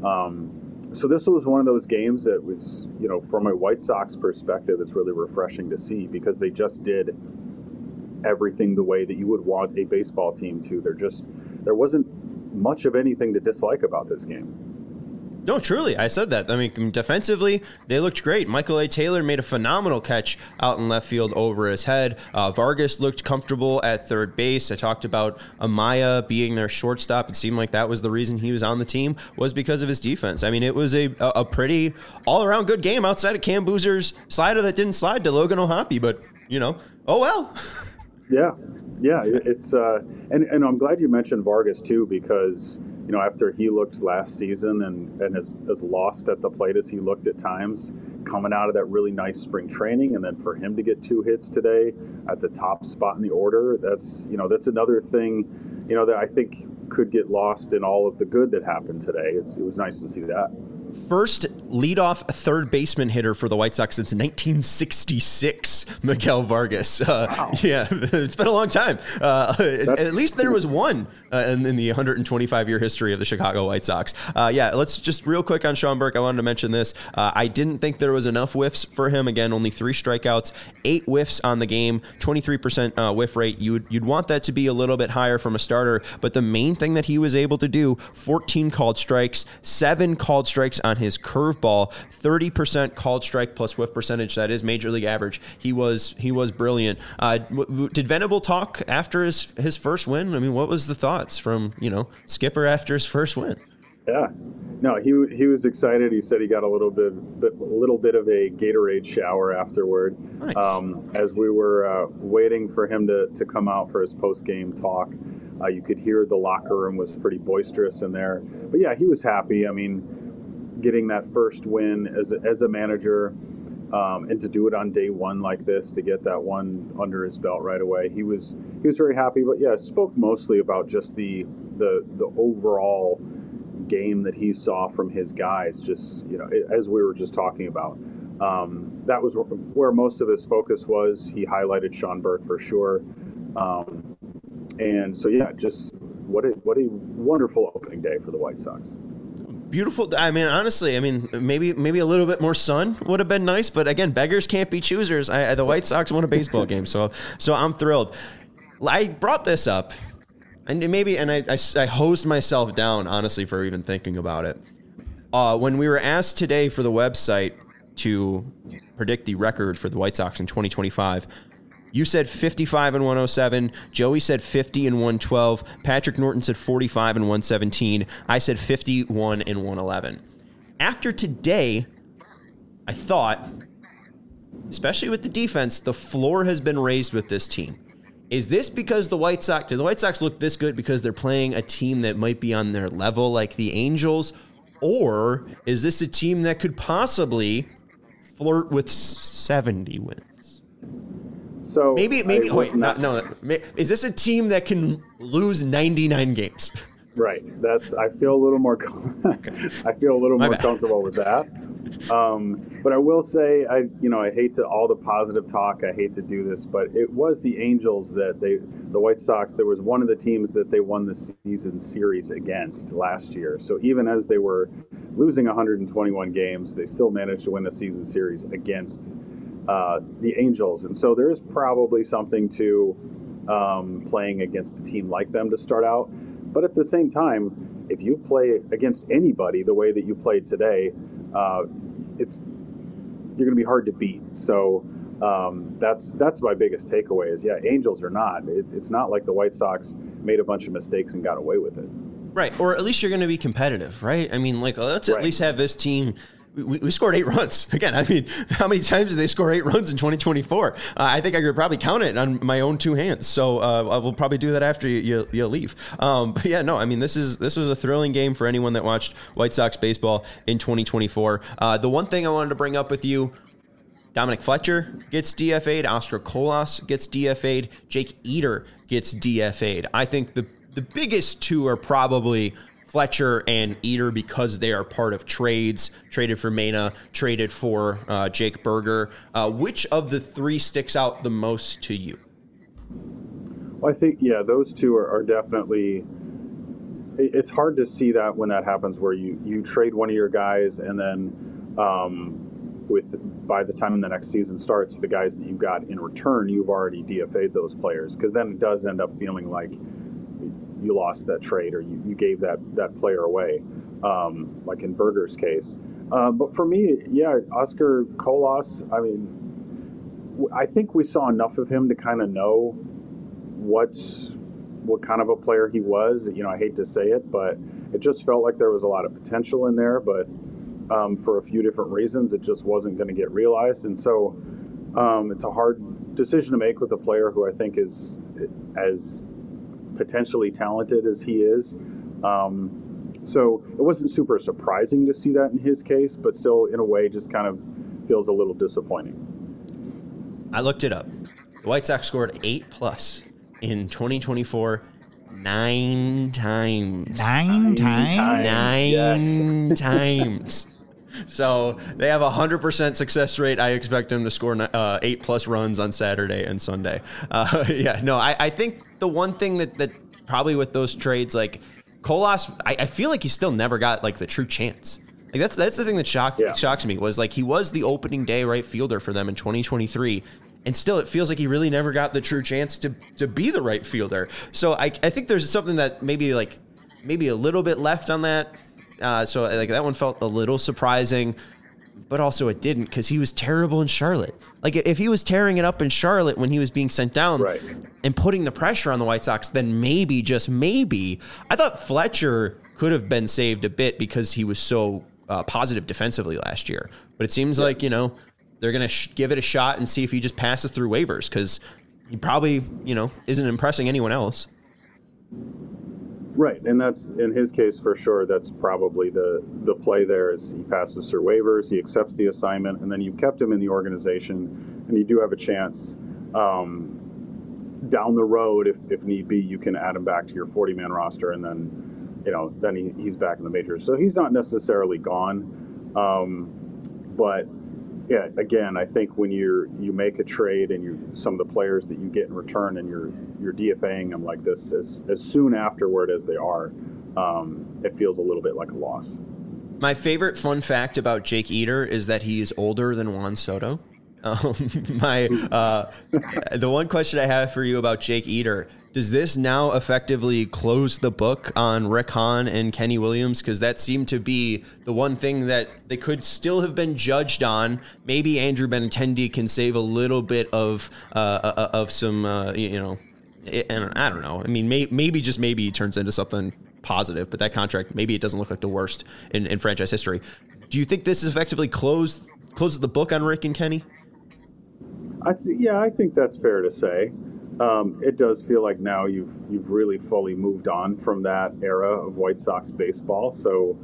So this was one of those games that was, from a White Sox perspective, it's really refreshing to see, because they just did everything the way that you would want a baseball team to. There wasn't much of anything to dislike about this game. No, truly, I said that. I mean, defensively, they looked great. Michael A. Taylor made a phenomenal catch out in left field over his head. Vargas looked comfortable at third base. I talked about Amaya being their shortstop. It seemed like that was the reason he was on the team, was because of his defense. I mean, it was a pretty all-around good game outside of Cam Boozer's slider that didn't slide to Logan O'Hoppe, but, oh well. Yeah, it's and I'm glad you mentioned Vargas too, because after he looked last season and as lost at the plate as he looked at times, coming out of that really nice spring training, and then for him to get 2 hits today at the top spot in the order, that's another thing that I think could get lost in all of the good that happened today. It was nice to see that. First leadoff third baseman hitter for the White Sox since 1966, Miguel Vargas. Wow. Yeah, it's been a long time. At least there was one in the 125-year history of the Chicago White Sox. Let's just real quick on Sean Burke. I wanted to mention this. I didn't think there was enough whiffs for him. Again, only 3 strikeouts, 8 whiffs on the game, 23% whiff rate. You'd want that to be a little bit higher from a starter, but the main thing that he was able to do, 14 called strikes, 7 called strikes on his curveball, 30% called strike plus whiff percentage. That is major league average. He was brilliant. Did Venable talk after his first win? I mean, what was the thoughts from Skipper after his first win? Yeah, no, he was excited. He said he got a little bit of a Gatorade shower afterward. Nice. As we were waiting for him to come out for his post game talk. You could hear the locker room was pretty boisterous in there. But yeah, he was happy. I mean, getting that first win as a manager, and to do it on day one like this, to get that one under his belt right away, he was very happy. But yeah, spoke mostly about just the overall game that he saw from his guys. Just as we were just talking about, that was where most of his focus was. He highlighted Sean Burke for sure, and so yeah, just what a wonderful opening day for the White Sox. Beautiful. I mean, honestly, maybe a little bit more sun would have been nice. But again, beggars can't be choosers. The White Sox won a baseball game, so I'm thrilled. I brought this up, and I hosed myself down, honestly, for even thinking about it. When we were asked today for the website to predict the record for the White Sox in 2025, you said 55 and 107. Joey said 50 and 112. Patrick Norton said 45 and 117. I said 51 and 111. After today, I thought, especially with the defense, the floor has been raised with this team. Is this because do the White Sox look this good because they're playing a team that might be on their level like the Angels? Or is this a team that could possibly flirt with 70 wins? So maybe. Wait, no. Is this a team that can lose 99 games? Right. I feel a little more. I feel a little more comfortable with that. But I will say, I hate to all the positive talk. I hate to do this, but it was the Angels that the White Sox. There was one of the teams that they won the season series against last year. So even as they were losing 121 games, they still managed to win the season series against the Angels. And so there is probably something to playing against a team like them to start out. But at the same time, if you play against anybody the way that you played today, you're going to be hard to beat. So that's my biggest takeaway is, Angels or not, it's not like the White Sox made a bunch of mistakes and got away with it. Right. Or at least you're going to be competitive, right? I mean, like, let's at least have this team. We scored 8 runs. Again, I mean, how many times did they score 8 runs in 2024? I think I could probably count it on my own 2 hands. So I will probably do that after you leave. But yeah, no, I mean, this was a thrilling game for anyone that watched White Sox baseball in 2024. The one thing I wanted to bring up with you, Dominic Fletcher gets DFA'd. Oscar Colas gets DFA'd. Jake Eder gets DFA'd. I think the biggest two are probably Fletcher and Eder because they are part of trades, traded for Mena, traded for Jake Berger. Which of the 3 sticks out the most to you? Well, I think, those two are definitely, it's hard to see that when that happens where you trade one of your guys and then by the time the next season starts, the guys that you got in return, you've already DFA'd those players, because then it does end up feeling like you lost that trade or you gave that player away, like in Berger's case. But for me, Oscar Colas, I mean, I think we saw enough of him to kind of know what kind of a player he was. I hate to say it, but it just felt like there was a lot of potential in there, but for a few different reasons, it just wasn't going to get realized. And so it's a hard decision to make with a player who I think is as potentially talented as he is. So it wasn't super surprising to see that in his case, but still, in a way, just kind of feels a little disappointing. I looked it up. The White Sox scored 8+ in 2024 9 times. 9 times? 9 times. So they have a 100% success rate. I expect them to score 8+ runs on Saturday and Sunday. I think the one thing that probably with those trades, like Colas, I feel like he still never got like the true chance. Like that's the thing that shocks me was like he was the opening day right fielder for them in 2023. And still, it feels like he really never got the true chance to be the right fielder. So I think there's something that maybe a little bit left on that. So like that one felt a little surprising, but also it didn't because he was terrible in Charlotte. Like if he was tearing it up in Charlotte when he was being sent down and putting the pressure on the White Sox, then maybe, just maybe, I thought Fletcher could have been saved a bit because he was so positive defensively last year. But it seems like, they're going to give it a shot and see if he just passes through waivers because he probably, isn't impressing anyone else. Right, and that's, in his case, for sure, that's probably the play there is he passes through waivers, he accepts the assignment, and then you kept him in the organization, and you do have a chance down the road, if need be, you can add him back to your 40-man roster, and then, he's back in the majors. So he's not necessarily gone, but yeah, again, I think when you make a trade and some of the players that you get in return and you're DFAing them like this as soon afterward as they are, it feels a little bit like a loss. My favorite fun fact about Jake Eder is that he is older than Juan Soto. The one question I have for you about Jake Eder, does this now effectively close the book on Rick Hahn and Kenny Williams? Because that seemed to be the one thing that they could still have been judged on. Maybe Andrew Benintendi can save a little bit of some, and I don't know. I mean, maybe just maybe he turns into something positive, but that contract, maybe it doesn't look like the worst in franchise history. Do you think this is effectively closes the book on Rick and Kenny? I think that's fair to say. It does feel like now you've really fully moved on from that era of White Sox baseball. So,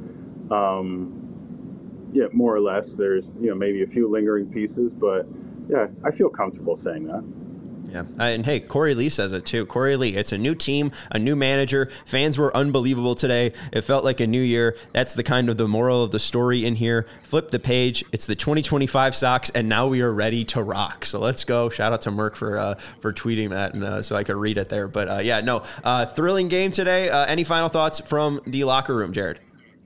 more or less, there's maybe a few lingering pieces, but I feel comfortable saying that. Yeah, and hey, Corey Lee says it too. Corey Lee, it's a new team, a new manager. Fans were unbelievable today. It felt like a new year. That's the kind of the moral of the story in here. Flip the page. It's the 2025 Sox, and now we are ready to rock. So let's go. Shout out to Merck for tweeting that, and so I could read it there. But thrilling game today. Any final thoughts from the locker room, Jared?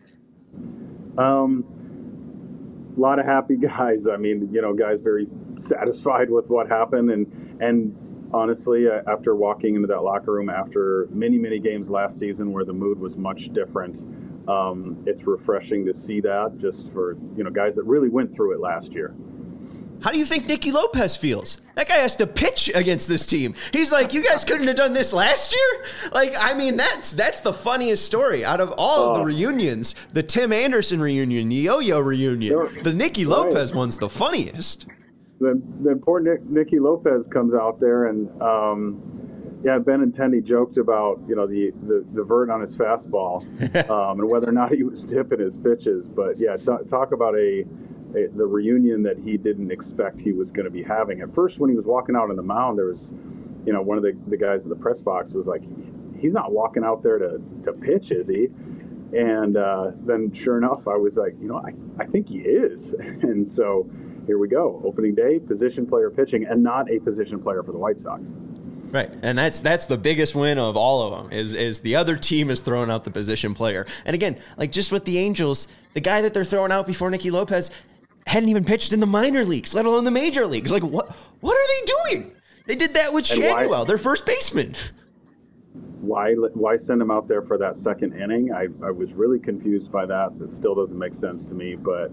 A lot of happy guys. I mean, guys very satisfied with what happened, and honestly, after walking into that locker room after many, many games last season where the mood was much different, it's refreshing to see that just for, guys that really went through it last year. How do you think Nicky Lopez feels? That guy has to pitch against this team. He's like, you guys couldn't have done this last year? That's the funniest story out of all of the reunions. The Tim Anderson reunion, the Yo-Yo reunion. The Nicky Lopez one's the funniest. Then poor Nicky Lopez comes out there and, Benintendi joked about, the vert on his fastball and whether or not he was tipping his pitches. But, talk about the reunion that he didn't expect he was going to be having. At first, when he was walking out on the mound, there was, one of the guys in the press box was like, he's not walking out there to pitch, is he? And then sure enough, I was like, I think he is. And so here we go. Opening day, position player pitching, and not a position player for the White Sox. Right, and that's the biggest win of all of them is the other team is throwing out the position player. And again, like just with the Angels, the guy that they're throwing out before Nicky Lopez hadn't even pitched in the minor leagues, let alone the major leagues. Like, what are they doing? They did that with Shadwell, their first baseman. Why send him out there for that second inning? I was really confused by that. That still doesn't make sense to me. But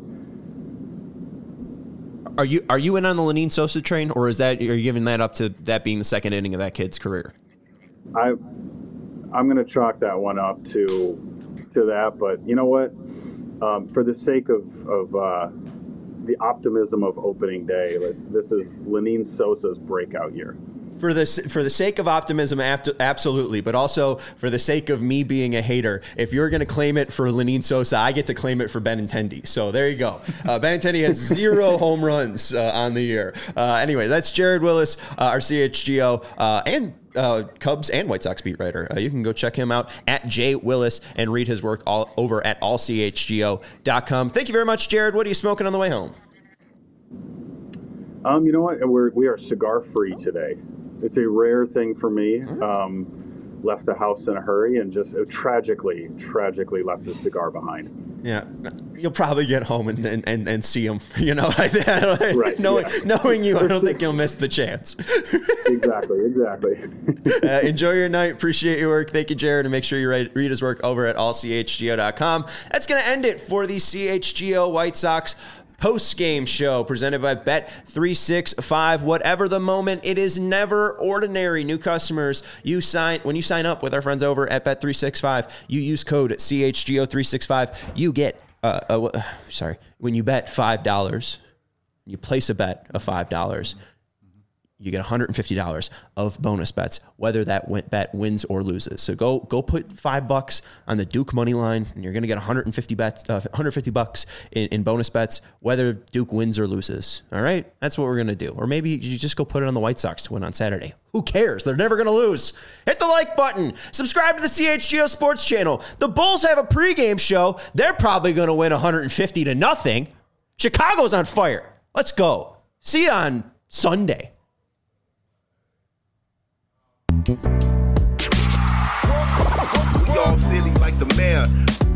are you in on the Lenyn Sosa train, or are you giving that up to that being the second inning of that kid's career? I'm going to chalk that one up to that. But you know what? For the sake of the optimism of opening day, this is Lenyn Sosa's breakout year. For the sake of optimism, absolutely, but also for the sake of me being a hater, if you're going to claim it for Lenyn Sosa, I get to claim it for Benintendi. So there you go. Benintendi has 0 home runs on the year. Anyway, that's Jared Willis, our CHGO, and Cubs and White Sox beat writer. You can go check him out at J Willis and read his work all over at allchgo.com. Thank you very much, Jared. What are you smoking on the way home? You know what? We are cigar free today. It's a rare thing for me. Left the house in a hurry and just tragically left the cigar behind. Yeah, you'll probably get home and see him. Right? Knowing you, I don't think you'll miss the chance. Exactly. Enjoy your night. Appreciate your work. Thank you, Jared. And make sure you read his work over at allchgo.com. That's going to end it for the CHGO White Sox post-game show presented by Bet365. Whatever the moment, it is never ordinary. New customers, when you sign up with our friends over at Bet365, you use code CHGO365. You get, when you bet $5, you place a bet of $5, you get $150 of bonus bets, whether that bet wins or loses. So go put $5 on the Duke money line, and you're going to get $150 in bonus bets, whether Duke wins or loses. All right, that's what we're going to do. Or maybe you just go put it on the White Sox to win on Saturday. Who cares? They're never going to lose. Hit the like button. Subscribe to the CHGO Sports Channel. The Bulls have a pregame show. They're probably going to win 150-0. Chicago's on fire. Let's go. See you on Sunday. We all silly like the mayor.